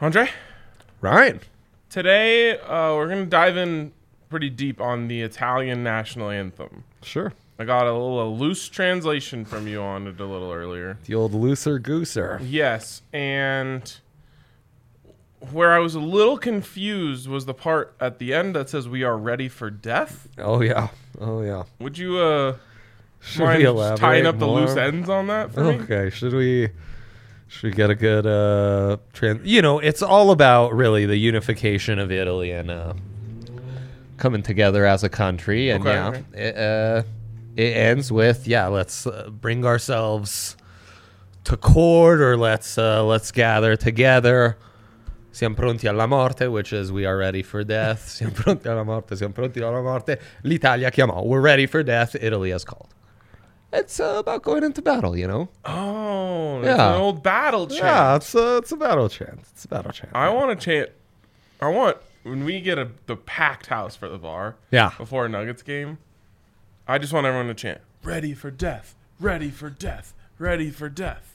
Andre? Ryan. Today, we're going to dive in pretty deep on the Italian national anthem. Sure. I got a loose translation from you on it a little earlier. The old looser gooser. Yes, and where I was a little confused was the part at the end that says we are ready for death. Oh, yeah. Oh, yeah. Would you Should mind we just elaborate tying up the more? loose ends on that for me? Okay. Should we get a good it's all about really the unification of Italy and coming together as a country. And it ends with let's bring ourselves to court, or let's gather together. Siamo pronti alla morte, which is we are ready for death. Siamo pronti alla morte, siamo pronti alla morte. L'Italia chiamò. We're ready for death. Italy has called. It's about going into battle, Oh, it's an old battle chant. Yeah, it's a battle chant. It's a battle chant. I want to chant. When we get the packed house for the bar before a Nuggets game, I just want everyone to chant, ready for death, ready for death, ready for death.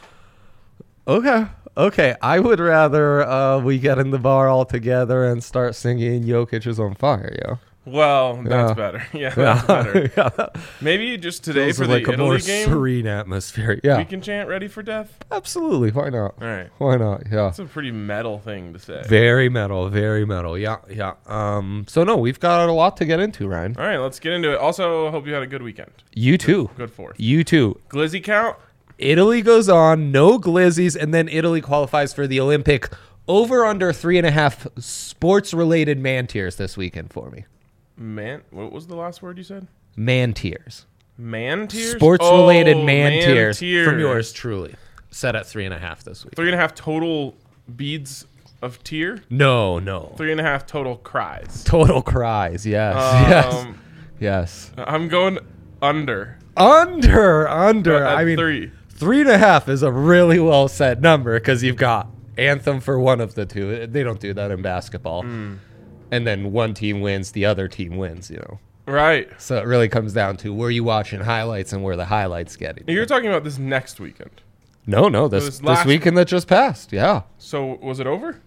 Okay. I would rather we get in the bar all together and start singing "Jokic is on fire," yo. Well, that's better. Yeah, that's better. Maybe just today for the like a Italy more game, serene atmosphere. Yeah, we can chant "ready for death." Absolutely. Why not? All right. Why not? Yeah. That's a pretty metal thing to say. Very metal. Very metal. Yeah. So no, we've got a lot to get into, Ryan. All right, let's get into it. Also, I hope you had a good weekend. You too. Good fourth. You too. Glizzy count? Italy goes on, no glizzies, and then Italy qualifies for the Olympic. Over under 3.5 sports-related man tiers this weekend for me. What was the last word you said? Man tiers. Man tiers? Sports-related man tiers tier. from yours truly. Set at 3.5 this week. 3.5 total beads of tear? No. 3.5 total cries. Total cries, yes. Yes. I'm going under. Under. I mean, 3. 3.5 is a really well set number because you've got anthem for one of the two. They don't do that in basketball. And then one team wins, the other team wins, Right. So it really comes down to where you watching highlights and where the highlights getting. You're talking about this next weekend. No, this weekend that just passed. Yeah. So was it over?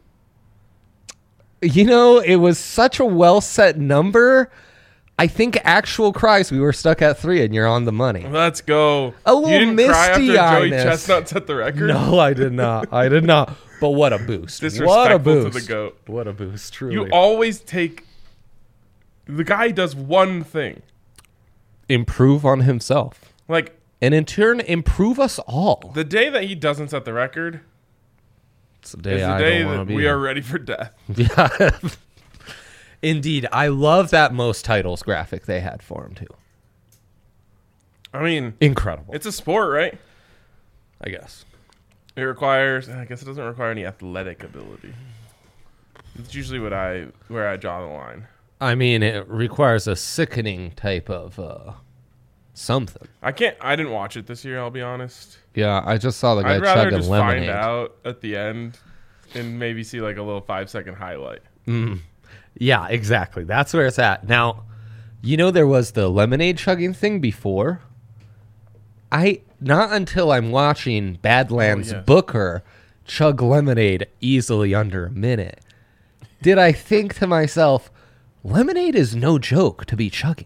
It was such a well set number. I think actual cries, we were stuck at 3, and you're on the money. Let's go. A little you didn't cry after Joey misty-eyedness. Chestnut set the record? No, I did not. But what a boost. Disrespectful What a boost. to the GOAT. What a boost, truly. You always take... The guy does one thing. Improve on himself. Like... And in turn, improve us all. The day that he doesn't set the record... It's the day that we are ready for death. Yeah. Indeed. I love that most titles graphic they had for him, too. I mean... Incredible. It's a sport, right? I guess. It requires... I guess it doesn't require any athletic ability. It's usually where I draw the line. I mean, it requires a sickening type of something. I didn't watch it this year, I'll be honest. Yeah, I just saw the guy I'd rather chugging just lemonade. find out at the end and maybe see like a little 5-second highlight. Yeah, exactly. That's where it's at. Now, there was the lemonade chugging thing before. Not until I'm watching Badlands Booker chug lemonade easily under a minute did I think to myself, lemonade is no joke to be chugging.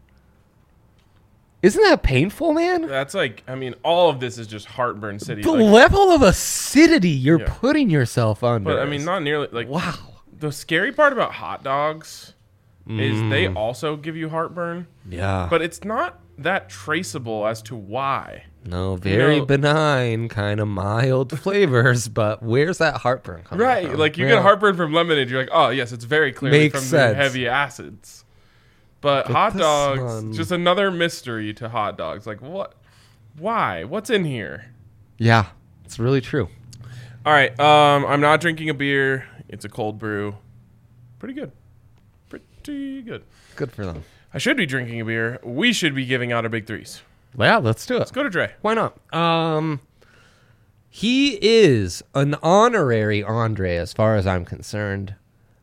Isn't that painful, man? That's all of this is just heartburn city. The level of acidity you're putting yourself under. But not nearly wow. The scary part about hot dogs is they also give you heartburn. Yeah. But it's not that traceable as to why. No, very benign, kind of mild flavors, but where's that heartburn coming from? Right, like you get heartburn from lemonade, you're like, oh yes, it's very clearly Makes from sense. the heavy acids. But hot dogs, just another mystery to hot dogs. Like what? Why? What's in here? Yeah, it's really true. All right, I'm not drinking a beer. It's a cold brew. Pretty good. Good for them. I should be drinking a beer. We should be giving out our big threes. Yeah, let's do it. Let's go to Dre. Why not? He is an honorary Andre as far as I'm concerned.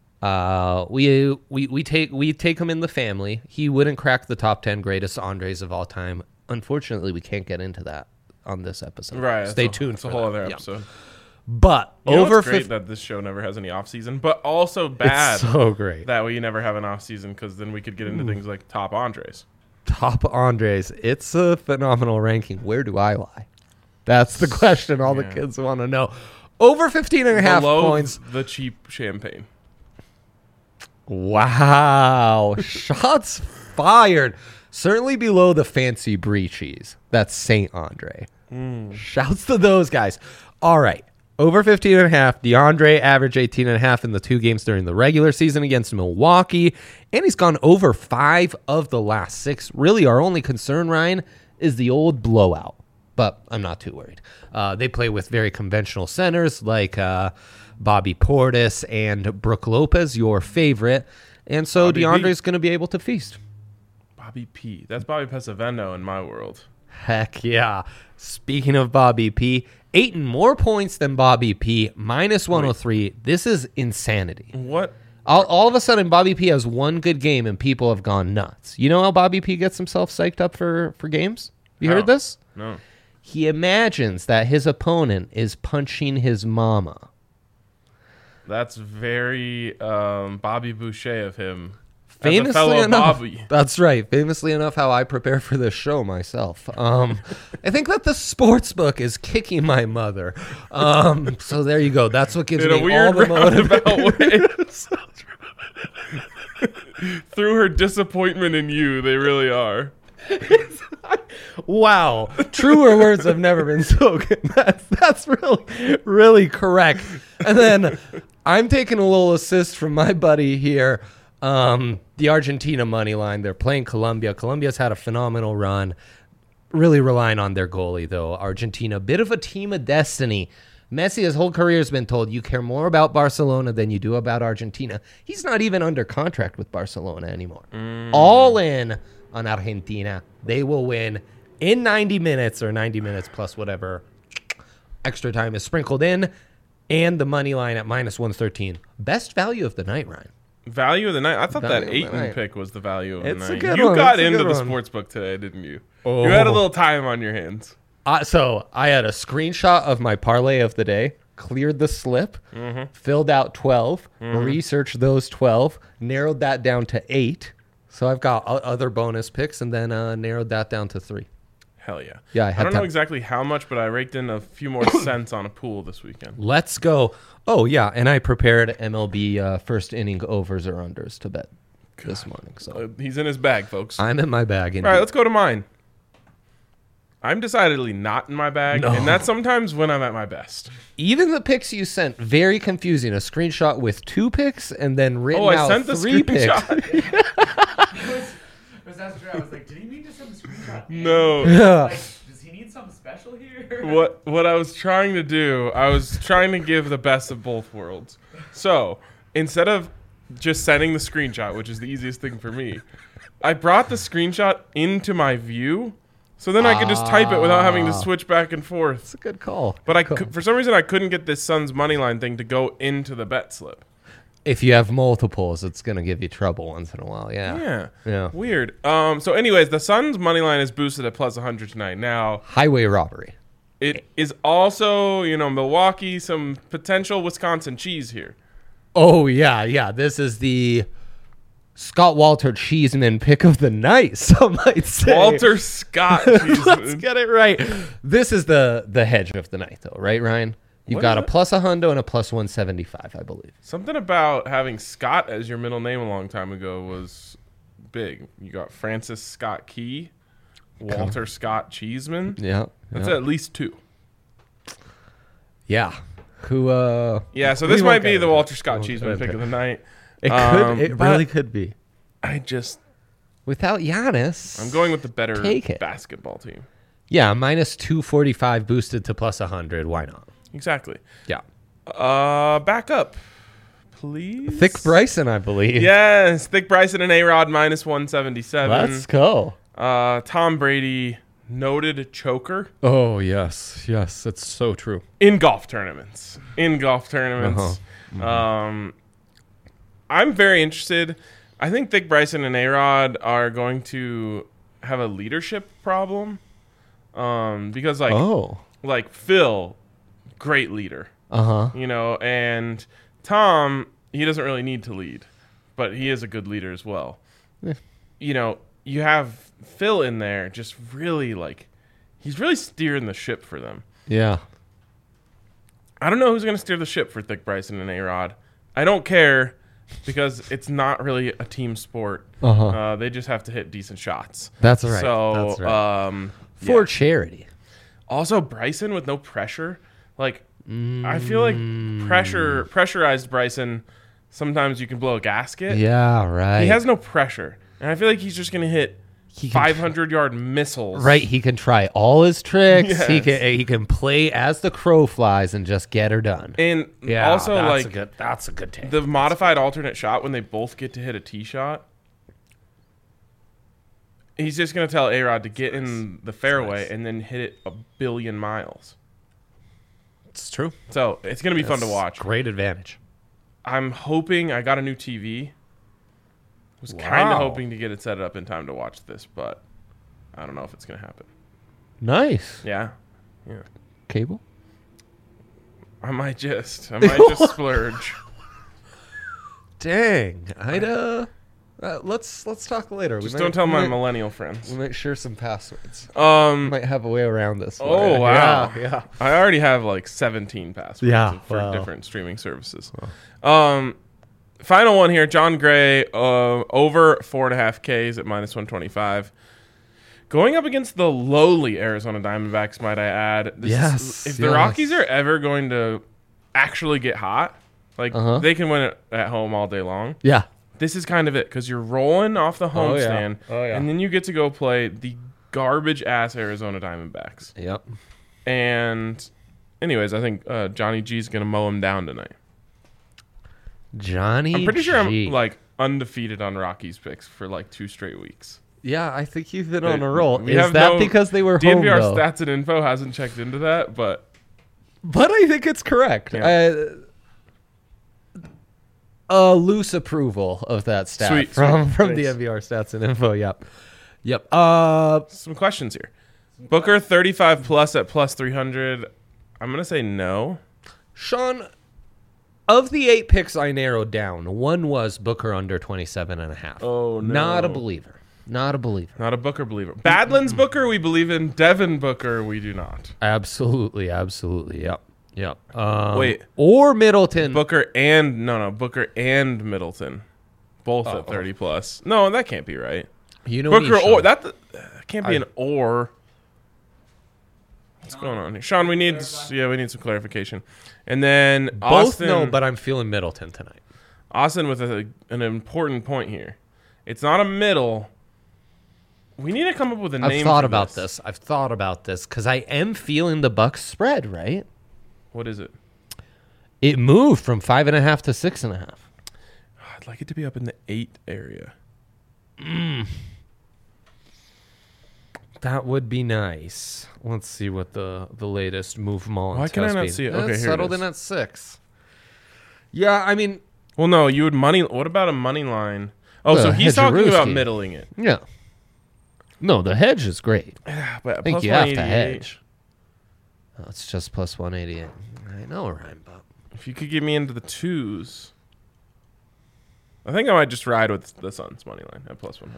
We take him in the family. He wouldn't crack the top 10 greatest Andres of all time. Unfortunately, we can't get into that on this episode. Right. Stay tuned It's for a whole that. other episode. But it's great that this show never has any off season, but also bad. It's so great that we never have an off season because then we could get into things like top Andres. Top Andres. It's a phenomenal ranking. Where do I lie? That's the question all the kids want to know. Over 15.5 points. The cheap champagne. Wow. Shots fired. Certainly below the fancy brie cheese. That's Saint Andre. Shouts to those guys. All right. Over 15.5. DeAndre averaged 18.5 in the 2 games during the regular season against Milwaukee. And he's gone over 5 of the last 6. Really, our only concern, Ryan, is the old blowout. But I'm not too worried. They play with very conventional centers like Bobby Portis and Brook Lopez, your favorite. And so DeAndre's going to be able to feast. Bobby P. That's Bobby Pesavento in my world. Heck yeah. Speaking of Bobby P, 8 more points than Bobby P, minus 103. Wait. This is insanity. What? All of a sudden, Bobby P has one good game and people have gone nuts. You know how Bobby P gets himself psyched up for games? You heard this? No. He imagines that his opponent is punching his mama. That's very Bobby Boucher of him. Famously enough, Bobby. That's right. Famously enough, how I prepare for this show myself. I think that the sports book is kicking my mother. So there you go. That's what gives me all the motivation. Through her disappointment in you, they really are. Wow. Truer words have never been spoken. That's really, really correct. And then I'm taking a little assist from my buddy here. The Argentina money line. They're playing Colombia. Colombia's had a phenomenal run. Really relying on their goalie, though. Argentina, bit of a team of destiny. Messi, his whole career has been told you care more about Barcelona than you do about Argentina. He's not even under contract with Barcelona anymore. All in on Argentina. They will win in 90 minutes or 90 minutes plus whatever extra time is sprinkled in. And the money line at minus 113. Best value of the night, Ryan. Value of the night? I thought that Ayton pick was the value of the night. A good you one. got into the sports book today, didn't you? Oh. You had a little time on your hands. So I had a screenshot of my parlay of the day, cleared the slip, filled out 12, researched those 12, narrowed that down to 8. So I've got other bonus picks and then narrowed that down to 3. Hell yeah. Yeah, I don't know exactly how much, but I raked in a few more cents on a pool this weekend. Let's go. Oh, yeah, and I prepared MLB first inning overs or unders to bet this morning. So he's in his bag, folks. I'm in my bag. Indeed. All right, let's go to mine. I'm decidedly not in my bag, and that's sometimes when I'm at my best. Even the picks you sent, very confusing. A screenshot with 2 picks and then written out 3 picks. I was like, did he mean to send a screenshot? No. Like, does he need something special here? What I was trying to do, I was trying to give the best of both worlds. So, instead of just sending the screenshot, which is the easiest thing for me, I brought the screenshot into my view, so then I could just type it without having to switch back and forth. It's a good call. But for some reason, I couldn't get this Suns moneyline thing to go into the bet slip. If you have multiples, it's going to give you trouble once in a while. Yeah. Weird. So anyways, the Suns money line is boosted at plus 100 tonight. Now, highway robbery. It is also, Milwaukee, some potential Wisconsin cheese here. Oh, yeah. This is the Scott Walter Cheeseman pick of the night, some might say. Walter Scott Cheeseman. Let's get it right. This is the hedge of the night, though, right, Ryan? You've got a plus a hundo and a plus 175, I believe. Something about having Scott as your middle name a long time ago was big. You got Francis Scott Key, Walter Scott Cheeseman. Yeah. That's at least 2. Yeah. So this might be the Walter Scott Cheeseman pick of the night. It could. It really could be. Without Giannis, I'm going with the better basketball team. Yeah, minus 245 boosted to plus 100. Why not? Exactly. Yeah. Back up, please. Thick Bryson, I believe. Yes, Thick Bryson and A-Rod minus 177. Let's go. Tom Brady, noted choker. Oh, yes. Yes, it's so true. In golf tournaments. I'm very interested. I think Thick Bryson and A-Rod are going to have a leadership problem. Because, like Phil, great leader. You know, and Tom, he doesn't really need to lead, but he is a good leader as well. Yeah. You know, you have Phil in there just really he's really steering the ship for them. Yeah. I don't know who's going to steer the ship for Thick Bryson and A-Rod. I don't care because it's not really a team sport. They just have to hit decent shots. That's right. So, that's right. For charity. Also, Bryson with no pressure. I feel like pressurized Bryson, sometimes you can blow a gasket. Yeah, right. He has no pressure. And I feel like he's just going to hit 500-yard missiles. Right, he can try all his tricks. Yes. He can play as the crow flies and just get her done. And also, that's a good take. The modified alternate shot when they both get to hit a tee shot. He's just going to tell A-Rod to get in the fairway and then hit it a billion miles. It's true. So it's going to be fun to watch. Great advantage. I'm hoping I got a new TV. Was kind of hoping to get it set up in time to watch this, but I don't know if it's going to happen. Nice. Yeah. Cable? I might just splurge. Dang. Let's talk later. Just don't tell my millennial friends. We might share some passwords. Might have a way around this. Oh, wow. Yeah. I already have 17 passwords for different streaming services. Wow. Final one here. John Gray, over 4.5 Ks at -125. Going up against the lowly Arizona Diamondbacks, might I add. If the Rockies are ever going to actually get hot, they can win it at home all day long. Yeah. This is kind of it, because you're rolling off the homestand, and then you get to go play the garbage-ass Arizona Diamondbacks. Yep. And anyways, I think Johnny G's going to mow him down tonight. I'm pretty sure I'm undefeated on Rockies picks for 2 straight weeks. Yeah, I think you've been on a roll. Is that because they were home, DNVR though? Stats and Info hasn't checked into that, but I think it's correct. Yeah. A loose approval of that stat from the DNVR Stats and Info. Yep. Some questions here. Booker 35 plus at +300. I'm gonna say no. Sean, of the 8 picks I narrowed down, one was Booker under 27.5. Oh, no. Not a believer. Not a Booker believer. Badlands Booker, we believe in. Devin Booker, we do not. Absolutely. Yep. Wait. Or Middleton. Booker and Middleton, both at 30 plus. No, that can't be right. Booker or that can't be an or. What's going on here, Sean? We need some clarification. And then both Austin, but I'm feeling Middleton tonight. Austin with an important point here. It's not a middle. We need to come up with a name. I've thought about this because I am feeling the Bucks spread, right? What is it? It moved from 5.5 to 6.5. I'd like it to be up in the 8 area. That would be nice. Let's see what the latest move Mullen. Why can I not see it? Okay, here settled in at 6. Yeah, I mean, well, no, you would money. What about a money line? Oh, so he's talking about middling it. Yeah. No, the hedge is great. But I think you have to hedge. Oh, it's just +188. I know, Ryan, but if you could get me into the 2s, I think I might just ride with the Suns money line at +100.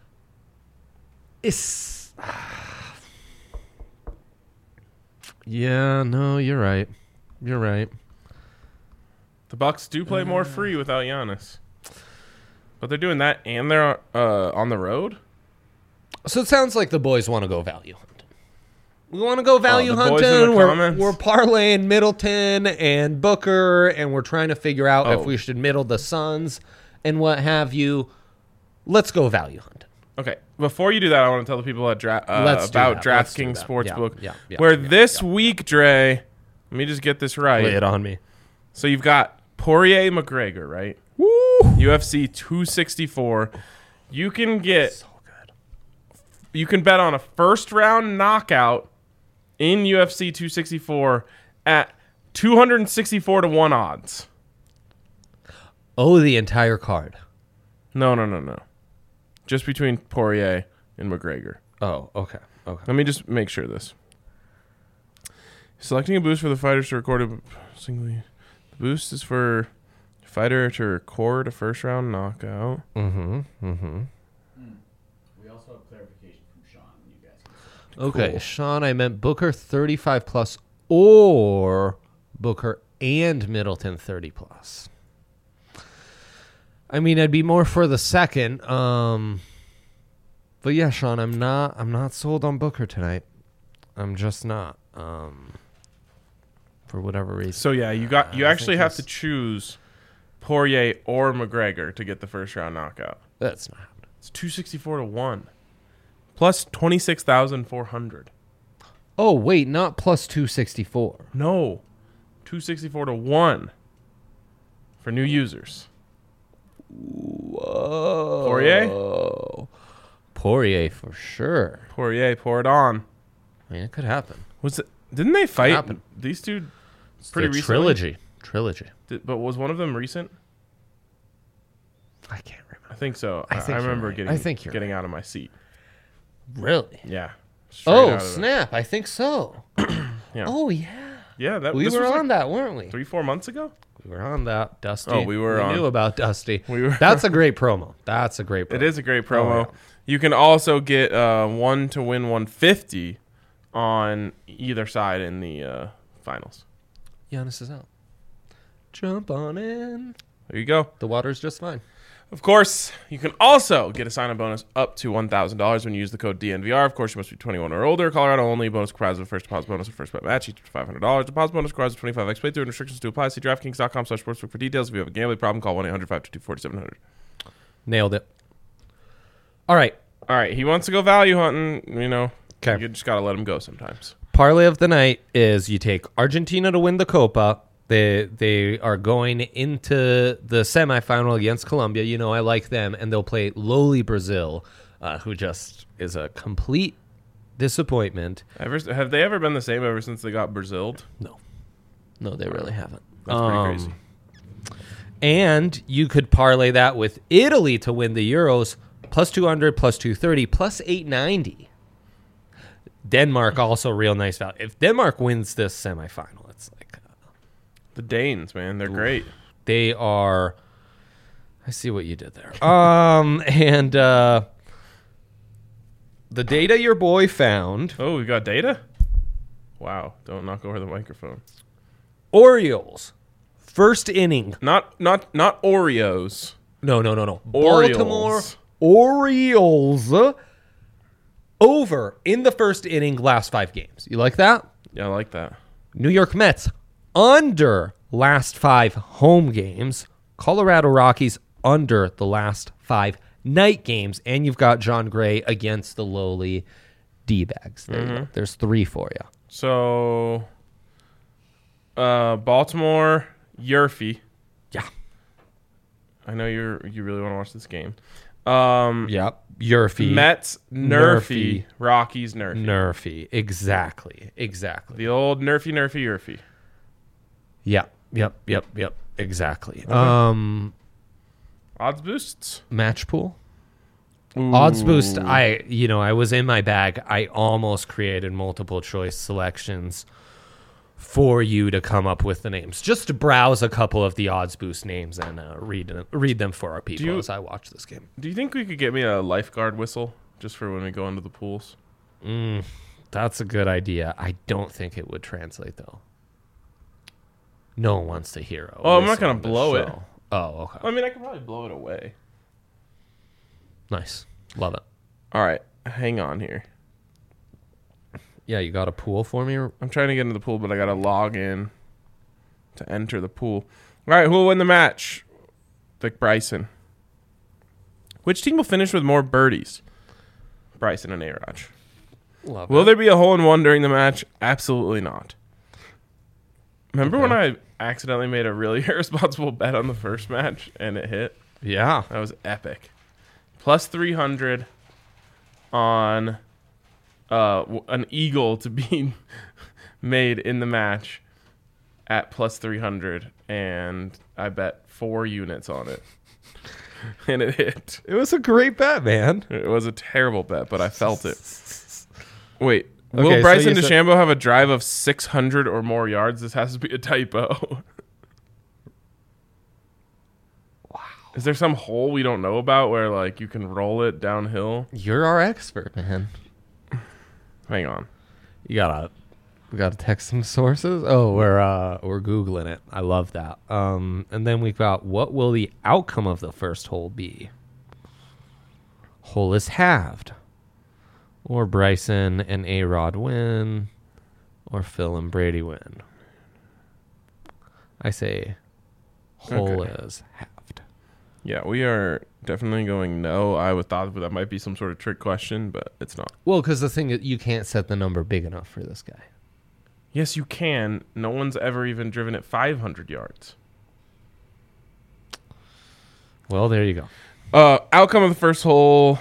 Yeah, no, you're right. The Bucks do play more free without Giannis, but they're doing that and they're on the road. So it sounds like the boys want to go value hunting. We want to go value hunting. We're parlaying Middleton and Booker, and we're trying to figure out if we should middle the Suns and what have you. Let's go value hunting. Okay. Before you do that, I want to tell the people about DraftKings Sportsbook, where this week, Dre, let me just get this right. Lay it on me. So you've got Poirier McGregor, right? Woo! UFC 264. You can get... So good. You can bet on a first-round knockout in UFC 264 at 264 to 1 odds. Oh, the entire card. No. Just between Poirier and McGregor. Oh, okay. Let me just make sure this. Selecting a boost for the fighters to record The boost is for fighter to record a first round knockout. Mm-hmm. Mm-hmm. We also have clarification from Sean. You guys. Okay, cool. Sean, I meant Booker 35 plus or Booker and Middleton 30 plus. I mean, I'd be more for the second. But yeah, Sean, I'm not sold on Booker tonight. I'm just not. For whatever reason. So yeah, you actually have to choose Poirier or McGregor to get the first round knockout. That's not happening. It's 264 to 1. Plus 26,400. Oh, wait, not plus 264. No. 264 to 1 for new users. Whoa. Poirier for sure. Poirier, pour it on. I mean, it could happen. Didn't they fight these two pretty recently? Trilogy. But was one of them recent? I can't remember. I think so. I remember getting out of my seat. Really? Yeah. Oh, snap. I think so. Yeah. Oh, yeah. Yeah, we were on that, weren't we? 3-4 months ago? We were on that, Dusty. Oh, we knew about Dusty. That's a great promo. It is a great promo. Oh, yeah. You can also get 1 to win 150 on either side in the finals. Giannis is out. Jump on in. There you go. The water's just fine. Of course, you can also get a sign-up bonus up to $1,000 when you use the code DNVR. Of course, you must be 21 or older. Colorado only. Bonus comprised of first deposit bonus and first bet match, each to $500. Deposit bonus comprised of 25x playthrough and restrictions to apply. See DraftKings.com/sportsbook for details. If you have a gambling problem, call 1-800-522-4700. Nailed it. All right. He wants to go value hunting. Okay. You just got to let him go sometimes. Parlay of the night is you take Argentina to win the Copa. They are going into the semifinal against Colombia. I like them, and they'll play lowly Brazil, who just is a complete disappointment. Have they ever been the same ever since they got Braziled? No, they really haven't. That's pretty crazy. And you could parlay that with Italy to win the Euros, plus 200, plus 230, plus 890. Denmark also real nice value. If Denmark wins this semifinal, it's like the Danes, man, they're great. They are. I see what you did there. And the data your boy found. Oh, we got data? Wow! Don't knock over the microphone. Orioles, first inning. Not Oreos. No. Orioles. Baltimore Orioles. Over in the first inning, last 5 games. You like that? Yeah, I like that. New York Mets, under last 5 home games. Colorado Rockies, under the last 5 night games. And you've got John Gray against the lowly D-bags. There's 3 for you. So, Baltimore, Yurfie. Yeah. I know you really want to watch this game. Yep. Yurfie. Mets, Nerfy. Rockies, Nerfy. Nerfy. Exactly. The old Nerfy, Yurfie. Yep. Exactly. Okay. Odds boosts? Match pool? Ooh. Odds boost, I was in my bag. I almost created multiple choice selections for you to come up with the names. Just to browse a couple of the odds boost names and read them for our people as I watch this game. Do you think we could get me a lifeguard whistle just for when we go into the pools? That's a good idea. I don't think it would translate, though. No one wants to hear it. Oh, I'm not going to blow it. Oh, okay. I mean, I could probably blow it away. Nice. Love it. All right. Hang on here. Yeah, you got a pool for me? I'm trying to get into the pool, but I got to log in to enter the pool. All right, who will win the match? Vic Bryson. Which team will finish with more birdies? Bryson and A-Raj. Will there be a hole-in-one during the match? Absolutely not. Remember when I accidentally made a really irresponsible bet on the first match and it hit? Yeah. That was epic. Plus 300 on an eagle to be made in the match at plus 300, and I bet 4 units on it. And it hit. It was a great bet, man. It was a terrible bet, but I felt it. Wait, Will Bryson DeChambeau have a drive of 600 or more yards? This has to be a typo. Wow. Is there some hole we don't know about where like you can roll it downhill? You're our expert, man. Hang on. We gotta text some sources. Oh, we're Googling it. I love that. And then we've got, what will the outcome of the first hole be? Hole is halved. Or Bryson and A-Rod win. Or Phil and Brady win. I say hole is halved. Yeah, we are definitely going no. I would thought that might be some sort of trick question, but it's not. Well, because the thing is, you can't set the number big enough for this guy. Yes, you can. No one's ever even driven it 500 yards. Well, there you go. Outcome of the first hole,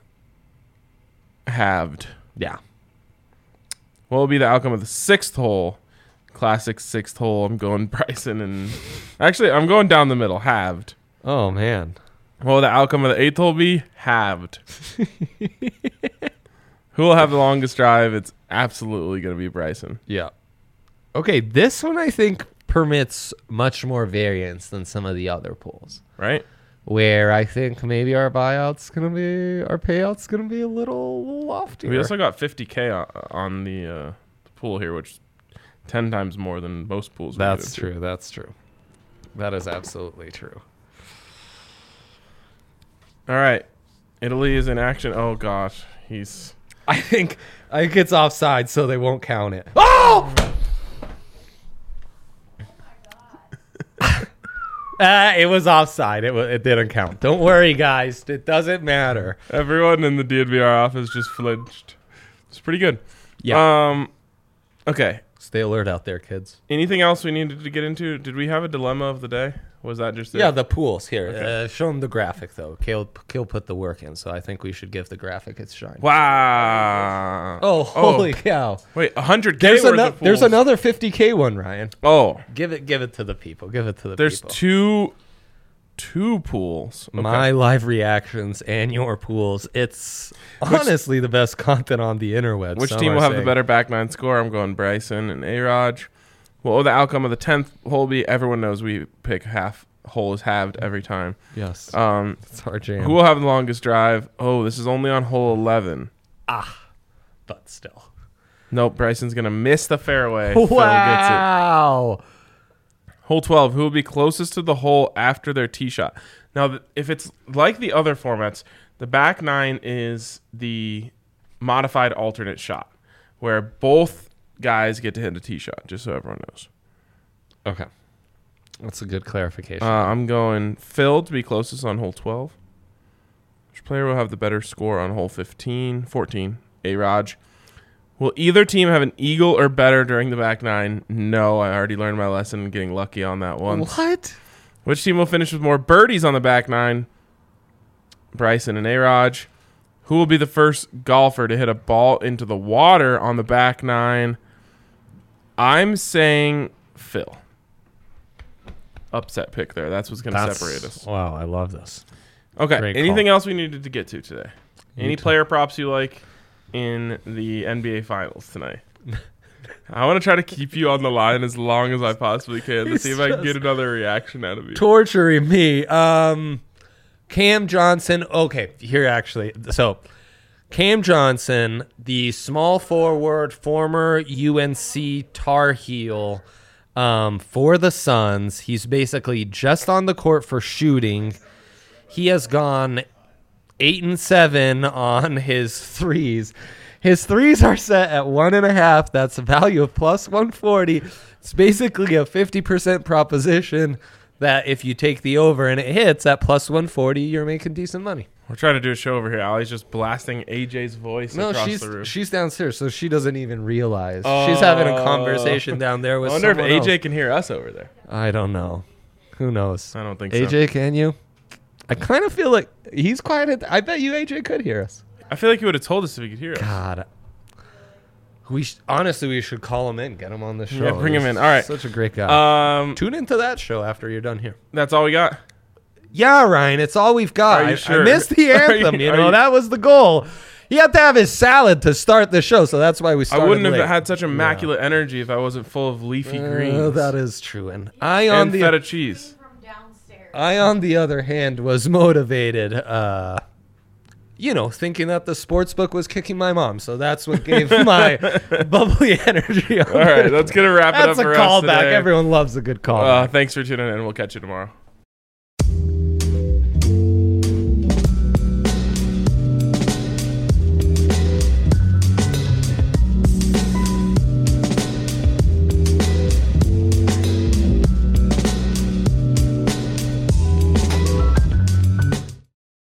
halved. Yeah. What will be the outcome of the sixth hole? Classic sixth hole. I'm going Bryson and... Actually, I'm going down the middle, halved. Oh, man. What will the outcome of the eighth hole be? Halved. Who will have the longest drive? It's absolutely going to be Bryson. Yeah. Okay, this one I think permits much more variance than some of the other pools. Right? Where I think maybe our payout's gonna be a little loftier. We also got 50K on the pool here, which is 10 times more than most pools. That's true. That's true. That is absolutely true. All right, Italy is in action. Oh gosh, I think it's offside, so they won't count it. Oh! It was offside. It didn't count. Don't worry, guys. It doesn't matter. Everyone in the DNVR office just flinched. It's pretty good. Yeah. Okay. Stay alert out there, kids. Anything else we needed to get into? Did we have a dilemma of the day? Was that just it? Yeah, the pools. Here. Okay. Show them the graphic, though. Kale put the work in, so I think we should give the graphic its shine. Wow. Oh, holy cow. Wait, 100K There's another 50K one, Ryan. Oh. Give it to the people. Give it to the There's people. two pools. Okay. My live reactions and your pools. It's honestly the best content on the interwebs. Which team will have the better back nine score? I'm going Bryson and A-Raj. What will the outcome of the 10th hole be? Everyone knows we pick half hole is halved every time. Yes. It's our jam. Who will have the longest drive? Oh, this is only on hole 11. But still. Nope, Bryson's going to miss the fairway. Wow. Phil gets it. Hole 12, who will be closest to the hole after their tee shot? Now, if it's like the other formats, the back nine is the modified alternate shot, where both guys get to hit a tee shot, just so everyone knows. Okay. That's a good clarification. I'm going Phil to be closest on hole 12. Which player will have the better score on hole 14? A-Raj. Will either team have an eagle or better during the back nine? No, I already learned my lesson getting lucky on that one. What? Which team will finish with more birdies on the back nine? Bryson and A-Raj. Who will be the first golfer to hit a ball into the water on the back nine? I'm saying Phil. Upset pick there. That's what's going to separate us. Wow, I love this. Okay. Great Anything call. else we needed to get to today? Any player props you like in the NBA Finals tonight? I want to try to keep you on the line as long as I possibly can to see if I can get another reaction out of you. Torturing me. Cam Johnson. Okay, here actually. So, Cam Johnson, the small forward, former UNC Tar Heel for the Suns. He's basically just on the court for shooting. He has gone 8-7 on his threes. His threes are set at 1.5. That's a value of plus 140. It's basically a 50% proposition that if you take the over and it hits at plus 140, you're making decent money. We're trying to do a show over here. Ali's just blasting AJ's voice across the room. She's downstairs, so she doesn't even realize. She's having a conversation down there with someone I wonder if AJ else. can hear us over there. I don't know. Who knows? I don't think so. AJ, can you? I kind of feel like he's quiet. I bet you AJ could hear us. I feel like he would have told us if he could hear us. God. Honestly, we should call him in, get him on the show. Yeah, bring him in. All right. Such a great guy. Tune into that show after you're done here. That's all we got? Yeah, Ryan, it's all we've got. Are you sure? I missed the anthem, that was the goal. He had to have his salad to start the show, so that's why we started I wouldn't late. have had such immaculate energy if I wasn't full of leafy greens. That is true. And feta cheese. I, on the other hand, was motivated, thinking that the sports book was kicking my mom. So that's what gave my bubbly energy. All right, let's get a wrap it up for us today. That's a callback. Everyone loves a good callback. Thanks for tuning in. We'll catch you tomorrow.